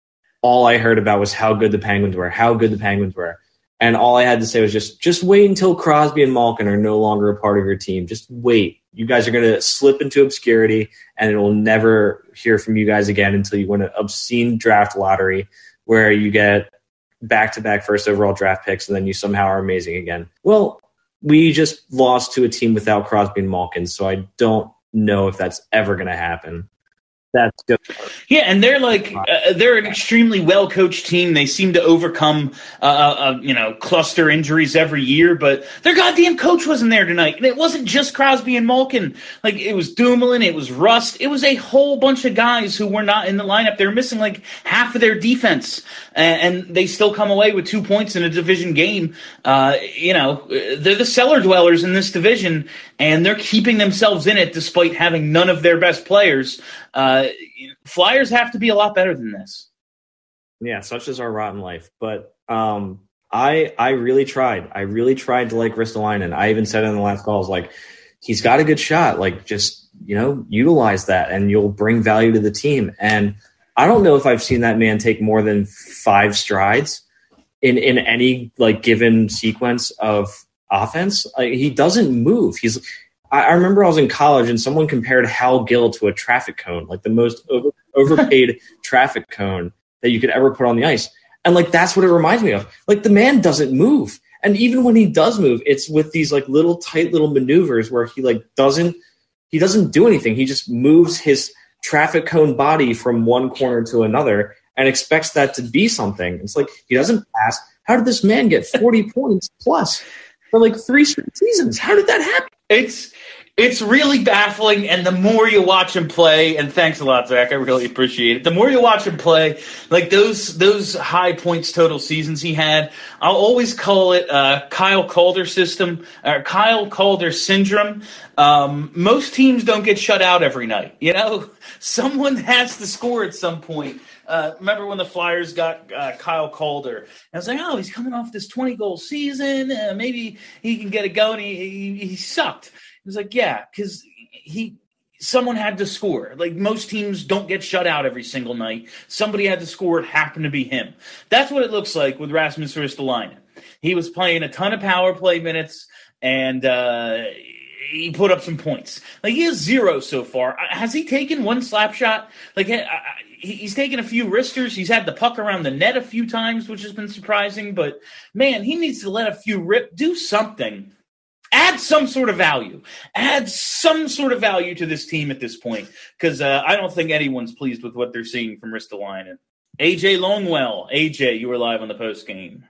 all I heard about was how good the Penguins were, how good the Penguins were. And all I had to say was just, just wait until Crosby and Malkin are no longer a part of your team. Just wait. You guys are going to slip into obscurity, and it will never hear from you guys again until you win an obscene draft lottery where you get back-to-back first overall draft picks, and then you somehow are amazing again. Well, we just lost to a team without Crosby and Malkin, so I don't know if that's ever going to happen. That's good. Yeah, and they're like uh, they're an extremely well coached team. They seem to overcome uh, uh, you know cluster injuries every year, but their goddamn coach wasn't there tonight, and it wasn't just Crosby and Malkin. Like, it was Dumoulin, it was Rust, it was a whole bunch of guys who were not in the lineup. They were missing like half of their defense, and, and they still come away with two points in a division game. Uh, you know, they're the cellar dwellers in this division, and they're keeping themselves in it despite having none of their best players. Uh, Flyers have to be a lot better than this. Yeah, such is our rotten life. But um, I I really tried. I really tried to like Ristolainen. I even said it in the last call, I was like, he's got a good shot. Like, just, you know, utilize that and you'll bring value to the team. And I don't know if I've seen that man take more than five strides in, in any, like, given sequence of offense. Like, he doesn't move. He's I remember I was in college and someone compared Hal Gill to a traffic cone, like the most over, overpaid traffic cone that you could ever put on the ice. And like, that's what it reminds me of. Like, the man doesn't move. And even when he does move, it's with these like little tight little maneuvers where he like doesn't, he doesn't do anything. He just moves his traffic cone body from one corner to another and expects that to be something. It's like, he doesn't pass. How did this man get forty points plus for like three straight seasons? How did that happen? It's it's really baffling, and the more you watch him play, and thanks a lot, Zach, I really appreciate it. The more you watch him play, like those those high points total seasons he had, I'll always call it uh, Kyle Calder system, or Kyle Calder syndrome. Um, most teams don't get shut out every night. You know, someone has to score at some point. Uh, remember when the Flyers got uh, Kyle Calder? And I was like, oh, he's coming off this twenty-goal season. Uh, maybe he can get it going. He, he, he sucked. He was like, yeah, because he someone had to score. Like, most teams don't get shut out every single night. Somebody had to score. It happened to be him. That's what it looks like with Rasmus Ristolainen. He was playing a ton of power play minutes, and uh, he put up some points. Like, he has zero so far. Has he taken one slap shot? Like, I, I, he's taken a few wristers. He's had the puck around the net a few times, which has been surprising. But, man, he needs to let a few rip. Do something. Add some sort of value. Add some sort of value to this team at this point, because uh, I don't think anyone's pleased with what they're seeing from Ristolainen. A J Longwell. A J, you were live on the post game.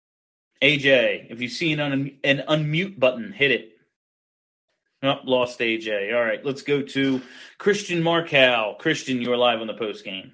A J, if you see an, un- an unmute button, hit it. Oh, lost A J. All right, let's go to Christian Markow. Christian, you are live on the post game.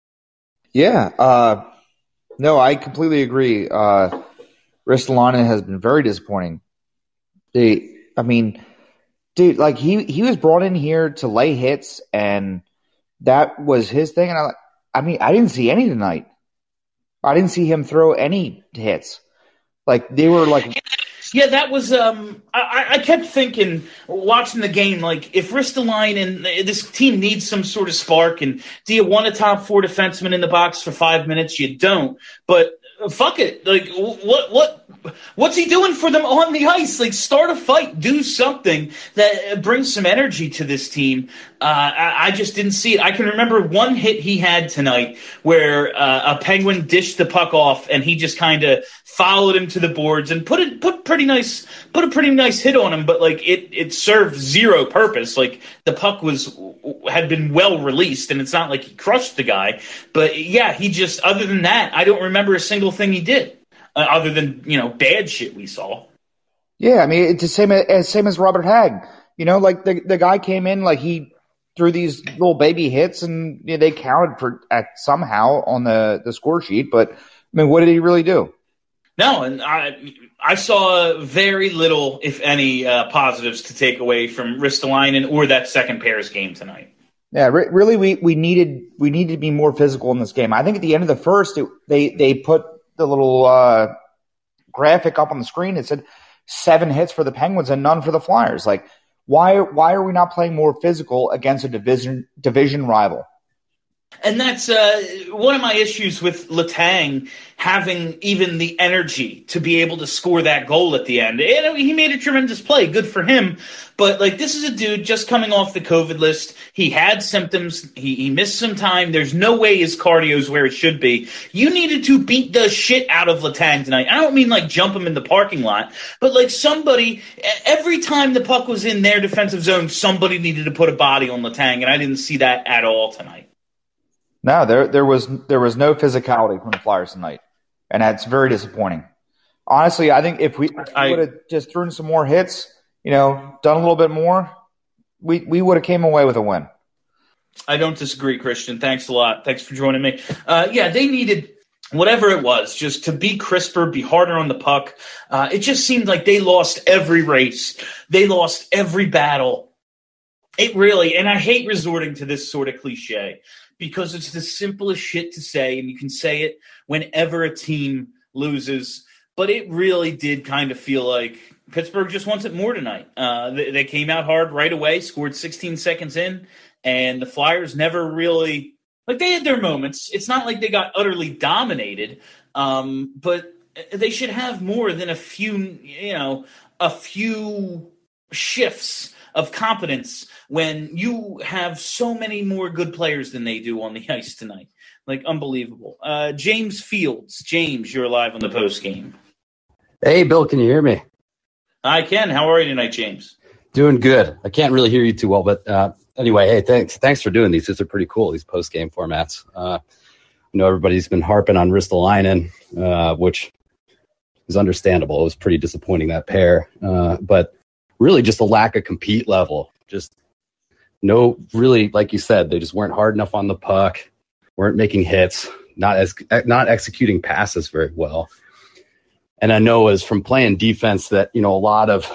Yeah. Uh, no, I completely agree. Uh, Ristolainen has been very disappointing. They, I mean, dude, like he, he was brought in here to lay hits, and that was his thing. And I, I mean, I didn't see any tonight. I didn't see him throw any hits. Like, they were like Yeah, that was. Um, I, I kept thinking, watching the game, like if Ristolainen, this team needs some sort of spark, and do you want a top four defenseman in the box for five minutes? You don't. But fuck it, like what what what's he doing for them on the ice? Like start a fight, do something that brings some energy to this team. Uh, I, I just didn't see it. I can remember one hit he had tonight where uh, a Penguin dished the puck off, and he just kind of followed him to the boards and put it put pretty nice put a pretty nice hit on him. But like it it served zero purpose. Like the puck was had been well released, and it's not like he crushed the guy. But yeah, he just other than that, I don't remember a single thing he did uh, other than you know bad shit we saw. Yeah, I mean it's the same as same as Robert Hagg. You know, like the the guy came in like he threw these little baby hits, and you know, they counted for at somehow on the the score sheet. But I mean, what did he really do? No, and I I saw very little, if any, uh, positives to take away from Ristolainen or that second pair's game tonight. Yeah, re- really, we, we needed we needed to be more physical in this game. I think at the end of the first, it, they they put the little uh, graphic up on the screen. It said seven hits for the Penguins and none for the Flyers. Like, why why are we not playing more physical against a division division rival? And that's uh, one of my issues with Letang having even the energy to be able to score that goal at the end. And he made a tremendous play. Good for him. But, like, this is a dude just coming off the COVID list. He had symptoms. He, he missed some time. There's no way his cardio is where it should be. You needed to beat the shit out of Letang tonight. I don't mean, like, jump him in the parking lot. But, like, somebody, every time the puck was in their defensive zone, somebody needed to put a body on Letang. And I didn't see that at all tonight. No, there there was there was no physicality from the Flyers tonight, and that's very disappointing. Honestly, I think if we, if we would have just thrown some more hits, you know, done a little bit more, we we would have came away with a win. I don't disagree, Christian. Thanks a lot. Thanks for joining me. Uh, yeah, they needed whatever it was, just to be crisper, be harder on the puck. Uh, it just seemed like they lost every race. They lost every battle. It really, and I hate resorting to this sort of cliche, because it's the simplest shit to say, and you can say it whenever a team loses. But it really did kind of feel like Pittsburgh just wants it more tonight. Uh, they, they came out hard right away, scored sixteen seconds in, and the Flyers never really – like they had their moments. It's not like they got utterly dominated, um, but they should have more than a few, you know, a few shifts of competence when you have so many more good players than they do on the ice tonight. Like, unbelievable. Uh, James Fields. James, you're live on the post game. Hey, Bill, can you hear me? I can. How are you tonight, James? Doing good. I can't really hear you too well, but uh, anyway, hey, thanks Thanks for doing these. These are pretty cool, these post game formats. Uh, I know everybody's been harping on Ristolainen, uh, which is understandable. It was pretty disappointing, that pair. Uh, but really just a lack of compete level. Just no, really, like you said, they just weren't hard enough on the puck, weren't making hits, not as not executing passes very well. And I know as from playing defense that, you know, a lot of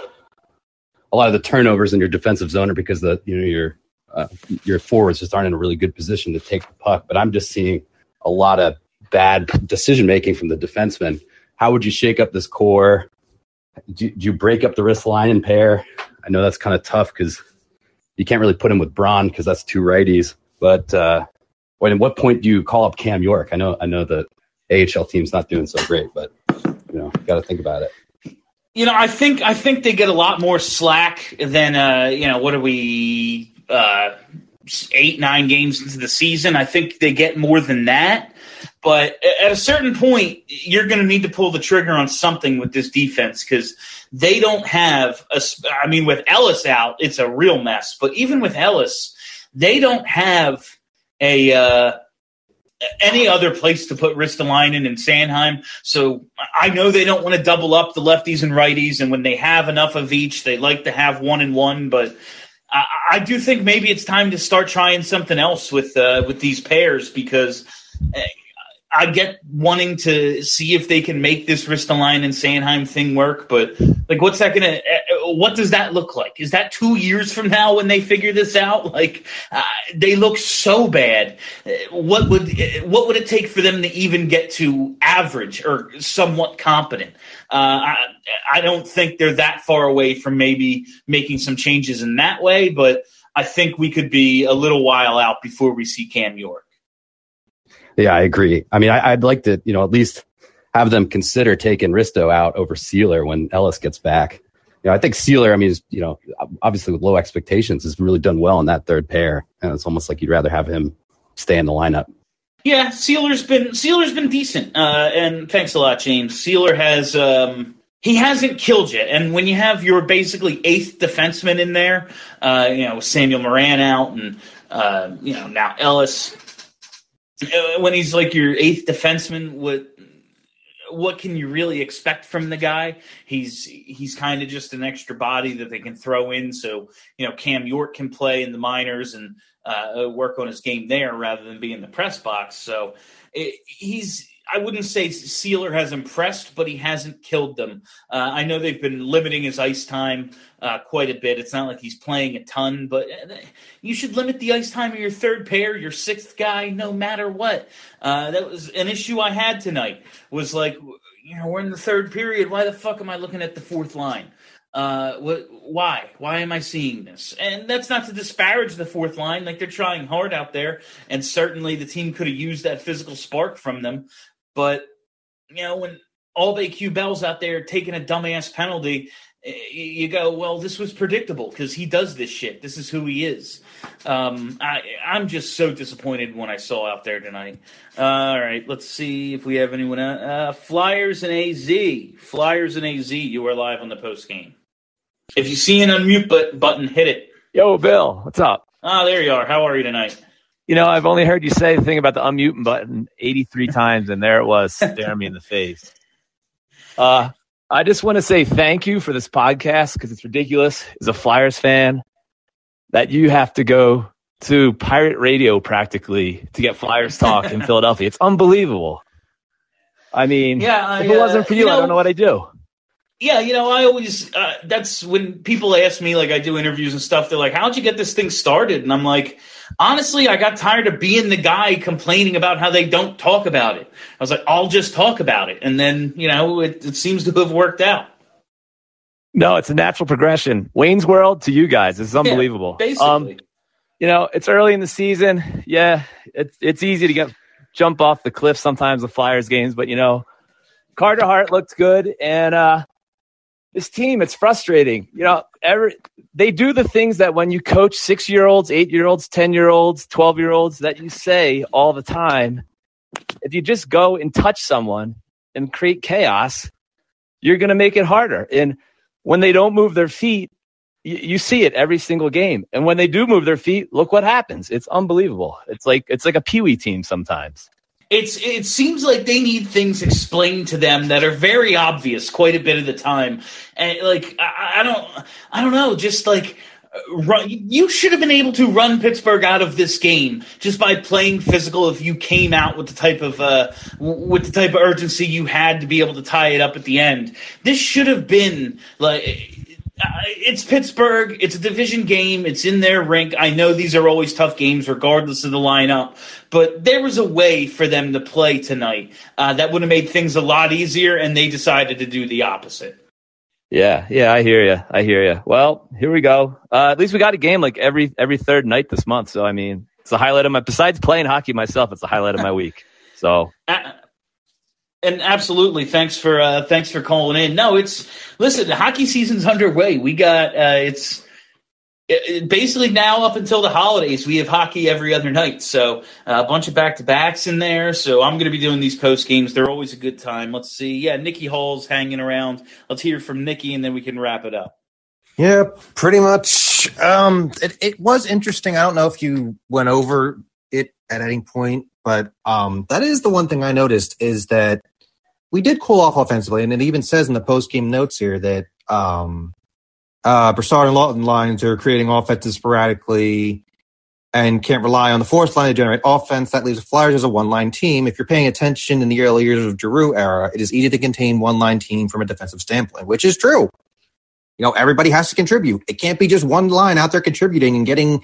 a lot of the turnovers in your defensive zone are because the you know your uh, your forwards just aren't in a really good position to take the puck. But I'm just seeing a lot of bad decision making from the defensemen. How would you shake up this core? Do, do you break up the Ristolainen pair? I know that's kind of tough because you can't really put him with Braun because that's two righties. But uh, at what point do you call up Cam York? I know I know the A H L team's not doing so great, but you know, got to think about it. You know, I think I think they get a lot more slack than uh, you know. What are we? Uh, eight, nine games into the season. I think they get more than that. But at a certain point, you're going to need to pull the trigger on something with this defense because they don't have a. I mean, with Ellis out, it's a real mess. But even with Ellis, they don't have a. Uh, any other place to put Ristolainen and Sanheim. So I know they don't want to double up the lefties and righties, and when they have enough of each, they like to have one and one. But I, I do think maybe it's time to start trying something else with uh, with these pairs because I get wanting to see if they can make this Ristolainen and Sanheim thing work. But like, what's that going to? What does that look like? Is that two years from now when they figure this out? Like, uh, they look so bad. What would what would it take for them to even get to average or somewhat competent? Uh, I, I don't think they're that far away from maybe making some changes in that way, but I think we could be a little while out before we see Cam York. Yeah, I agree. I mean, I, I'd like to, you know, at least have them consider taking Risto out over Sealer when Ellis gets back. You know, I think Sealer, I mean, is, you know, obviously with low expectations, has really done well in that third pair. And it's almost like you'd rather have him stay in the lineup. Yeah, Sealer's been Sealer's been decent. Uh, and thanks a lot, James. Sealer has um, he hasn't killed yet. And when you have your basically eighth defenseman in there, uh, you know, Samuel Moran out and uh, you know, now Ellis, when he's like your eighth defenseman, what what can you really expect from the guy? He's he's kind of just an extra body that they can throw in, so you know Cam York can play in the minors and uh, work on his game there rather than be in the press box. So it, he's. I wouldn't say Sealer has impressed, but he hasn't killed them. Uh, I know they've been limiting his ice time uh, quite a bit. It's not like he's playing a ton, but you should limit the ice time of your third pair, your sixth guy, no matter what. Uh, that was an issue I had tonight, was like, you know, we're in the third period. Why the fuck am I looking at the fourth line? Uh, what, why? Why am I seeing this? And that's not to disparage the fourth line. Like, they're trying hard out there, and certainly the team could have used that physical spark from them. But, you know, when Albe Bell's out there taking a dumbass penalty, you go, well, this was predictable because he does this shit. This is who he is. Um, I, I'm just so disappointed when I saw out there tonight. Uh, all right, let's see if we have anyone else. Uh, Flyers and A Z. Flyers and A Z, you are live on the post game. If you see an unmute but- button, hit it. Yo, Bill, what's up? Ah, there you are. How are you tonight? You know, I've only heard you say the thing about the unmute button eighty-three times, and there it was, staring me in the face. Uh, I just want to say thank you for this podcast because it's ridiculous as a Flyers fan that you have to go to pirate radio practically to get Flyers talk in Philadelphia. It's unbelievable. I mean, yeah, I, if it wasn't for you, uh, you know, I don't know what I'd do. Yeah, you know, I always, uh, that's when people ask me, like I do interviews and stuff, they're like, how'd you get this thing started? And I'm like, honestly, I got tired of being the guy complaining about how they don't talk about it. I was like, I'll just talk about it. And then, you know, it, it seems to have worked out. No, it's a natural progression. Wayne's World to you guys. This is unbelievable. Yeah, basically. Um, you know, it's early in the season. Yeah, it's it's easy to get jump off the cliff sometimes with Flyers games. But, you know, Carter Hart looked good. And, uh, this team, it's frustrating. You know, every, they do the things that when you coach six-year-olds, eight-year-olds, ten-year-olds, twelve-year-olds that you say all the time. If you just go and touch someone and create chaos, you're going to make it harder. And when they don't move their feet, you, you see it every single game. And when they do move their feet, look what happens. It's unbelievable. It's like it's like a peewee team sometimes. It's it seems like they need things explained to them that are very obvious quite a bit of the time, and like I, I don't I don't know, just like run, you should have been able to run Pittsburgh out of this game just by playing physical. If you came out with the type of uh, with the type of urgency you had to be able to tie it up at the end, this should have been like. Uh, it's Pittsburgh. It's a division game. It's in their rink. I know these are always tough games regardless of the lineup, but there was a way for them to play tonight uh, that would have made things a lot easier, and they decided to do the opposite. Yeah, yeah, I hear you. I hear you. Well, here we go. Uh, at least we got a game like every every third night this month. So, I mean, it's a highlight of my – besides playing hockey myself, it's the highlight of my week. So – uh, And absolutely, thanks for uh, thanks for calling in. No, it's listen. The hockey season's underway. We got uh, it's it, it basically now up until the holidays. We have hockey every other night, so uh, a bunch of back to backs in there. So I'm going to be doing these post games. They're always a good time. Let's see. Yeah, Nikki Hall's hanging around. Let's hear from Nikki, and then we can wrap it up. Yeah, pretty much. Um, it, it was interesting. I don't know if you went over it at any point, but um, that is the one thing I noticed is that we did cool off offensively, and it even says in the post-game notes here that um, uh, Brassard and Lawton lines are creating offenses sporadically and can't rely on the fourth line to generate offense. That leaves the Flyers as a one-line team. If you're paying attention in the early years of Giroux era, it is easy to contain one-line team from a defensive standpoint, which is true. You know, everybody has to contribute. It can't be just one line out there contributing and getting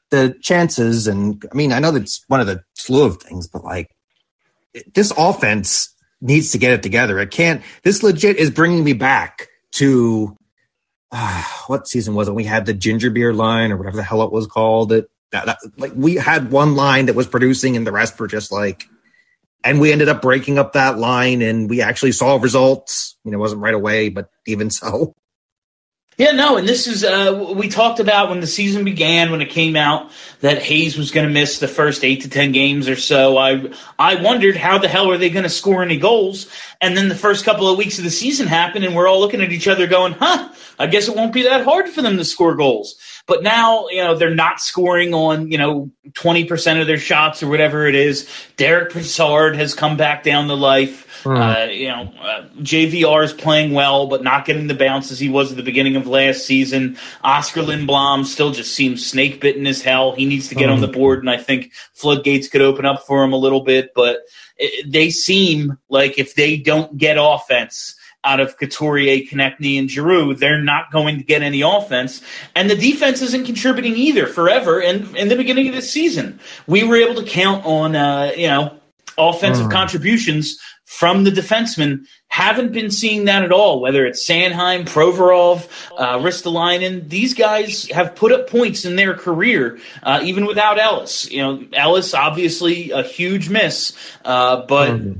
the chances, and I mean, I know that's one of the slew of things, but like this offense needs to get it together. It can't. This legit is bringing me back to uh, what season was it? We had the ginger beer line or whatever the hell it was called. It that, that like we had one line that was producing, and the rest were just like. And we ended up breaking up that line, and we actually saw results. You know, it wasn't right away, but even so. Yeah, no, and this is uh, we talked about when the season began, when it came out that Hayes was going to miss the first eight to ten games or so. I I wondered how the hell are they going to score any goals? And then the first couple of weeks of the season happened, and we're all looking at each other going, huh, I guess it won't be that hard for them to score goals. But now, you know, they're not scoring on, you know, twenty percent of their shots or whatever it is. Derek Brassard has come back down to life. Mm. Uh, you know, uh, J V R is playing well, but not getting the bounces he was at the beginning of last season. Oscar Lindblom still just seems snake bitten as hell. He needs to get mm. on the board, and I think floodgates could open up for him a little bit. But it, they seem like if they don't get offense out of Couturier, Konechny, and Giroux, they're not going to get any offense. And the defense isn't contributing either forever. And in the beginning of the season, we were able to count on, uh, you know, offensive mm. contributions from the defensemen. Haven't been seeing that at all, whether it's Sanheim, Provorov, uh, Ristolainen. These guys have put up points in their career, uh, even without Ellis. You know, Ellis, obviously a huge miss, uh, but mm.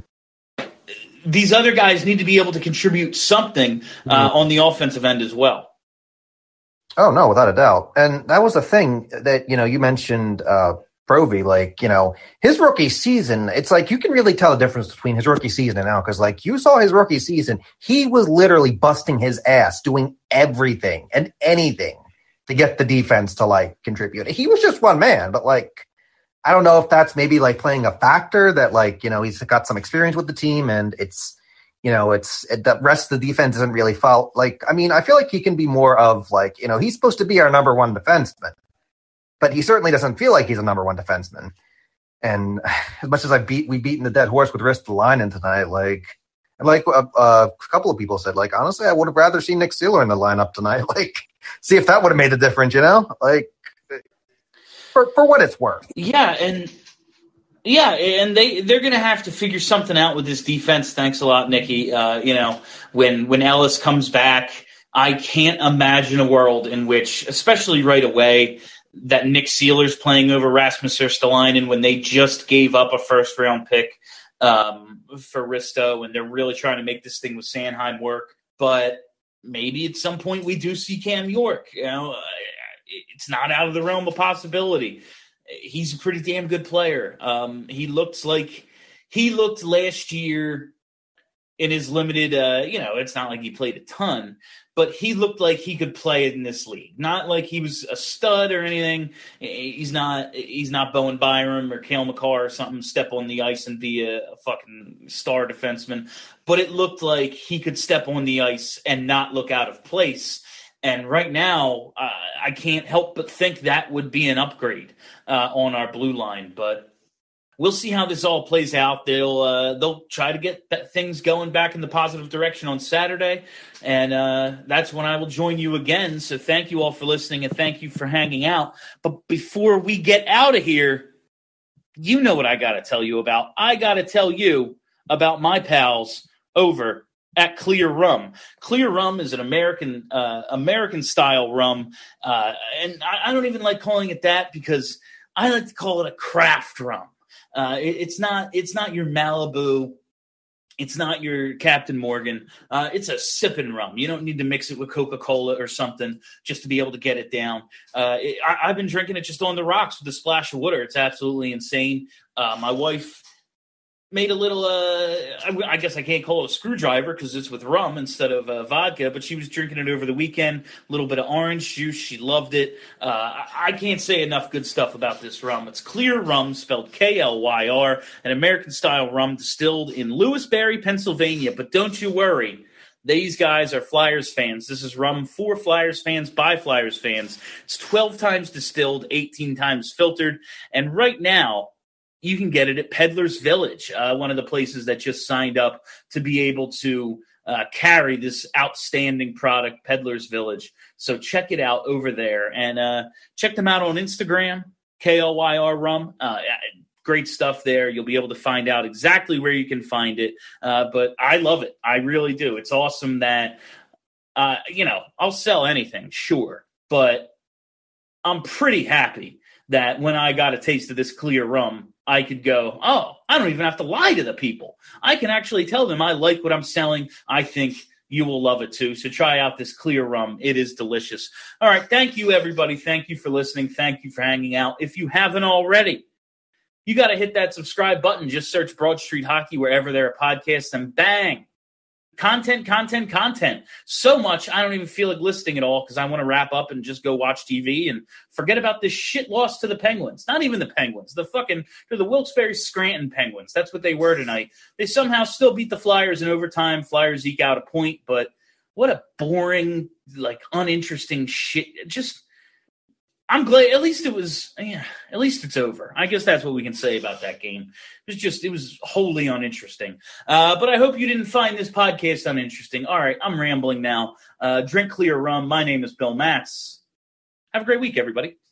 these other guys need to be able to contribute something uh, mm. on the offensive end as well. Oh, no, without a doubt. And that was the thing that, you know, you mentioned uh, Provy, like, you know, his rookie season, it's like you can really tell the difference between his rookie season and now, because, like, you saw his rookie season, he was literally busting his ass, doing everything and anything to get the defense to, like, contribute. He was just one man, but, like, I don't know if that's maybe, like, playing a factor that, like, you know, he's got some experience with the team and it's, you know, it's it, the rest of the defense isn't really foul. Like, I mean, I feel like he can be more of, like, you know, he's supposed to be our number one defenseman. But he certainly doesn't feel like he's a number one defenseman. And as much as I beat, we beaten the dead horse with Ristolainen tonight, like, and like a, a couple of people said, like, honestly, I would have rather seen Nick Seeler in the lineup tonight. Like, see if that would have made a difference, you know? Like, for for what it's worth. Yeah, and yeah, and they they're going to have to figure something out with this defense. Thanks a lot, Nikki. Uh, you know, when when Ellis comes back, I can't imagine a world in which, especially right away, that Nick Seeler's playing over Rasmus Ristolainen when they just gave up a first-round pick um, for Risto, and they're really trying to make this thing with Sanheim work. But maybe at some point we do see Cam York. You know, it's not out of the realm of possibility. He's a pretty damn good player. Um, he looks like he looked last year in his limited, uh, you know, it's not like he played a ton, but he looked like he could play in this league. Not like he was a stud or anything. He's not he's not Bowen Byram or Cale Makar or something, step on the ice and be a, a fucking star defenseman. But it looked like he could step on the ice and not look out of place. And right now, uh, I can't help but think that would be an upgrade uh, on our blue line. But we'll see how this all plays out. They'll uh, they'll try to get that things going back in the positive direction on Saturday, and uh, that's when I will join you again. So thank you all for listening, and thank you for hanging out. But before we get out of here, you know what I got to tell you about. I got to tell you about my pals over at Clear Rum. Clear Rum is an American uh, American style rum, uh, and I, I don't even like calling it that because I like to call it a craft rum. Uh, it, it's not. It's not your Malibu. It's not your Captain Morgan. Uh, it's a sipping rum. You don't need to mix it with Coca-Cola or something just to be able to get it down. Uh, it, I, I've been drinking it just on the rocks with a splash of water. It's absolutely insane. Uh, my wife made a little, uh, I, I guess I can't call it a screwdriver because it's with rum instead of uh, vodka, but she was drinking it over the weekend, a little bit of orange juice. She loved it. Uh, I, I can't say enough good stuff about this rum. It's Clear Rum, spelled K L Y R, an American-style rum distilled in Lewisberry, Pennsylvania. But don't you worry. These guys are Flyers fans. This is rum for Flyers fans by Flyers fans. It's twelve times distilled, eighteen times filtered, and right now, you can get it at Peddler's Village, uh, one of the places that just signed up to be able to uh, carry this outstanding product, Peddler's Village. So check it out over there. And uh, check them out on Instagram K L Y R rum. Uh, great stuff there. You'll be able to find out exactly where you can find it. Uh, but I love it. I really do. It's awesome that, uh, you know, I'll sell anything, sure. But I'm pretty happy that when I got a taste of this clear rum, I could go, oh, I don't even have to lie to the people. I can actually tell them I like what I'm selling. I think you will love it too. So try out this clear rum. It is delicious. All right. Thank you, everybody. Thank you for listening. Thank you for hanging out. If you haven't already, you got to hit that subscribe button. Just search Broad Street Hockey wherever there are podcasts, and bang. Content, content, content. So much, I don't even feel like listing it all because I want to wrap up and just go watch T V and forget about this shit loss to the Penguins. Not even the Penguins. The fucking, they're the Wilkes-Barre Scranton Penguins. That's what they were tonight. They somehow still beat the Flyers in overtime. Flyers eke out a point, but what a boring, like, uninteresting shit. Just, I'm glad, at least it was, yeah, at least it's over. I guess that's what we can say about that game. It was just, it was wholly uninteresting. Uh, but I hope you didn't find this podcast uninteresting. All right, I'm rambling now. Uh, drink clear rum. My name is Bill Matz. Have a great week, everybody.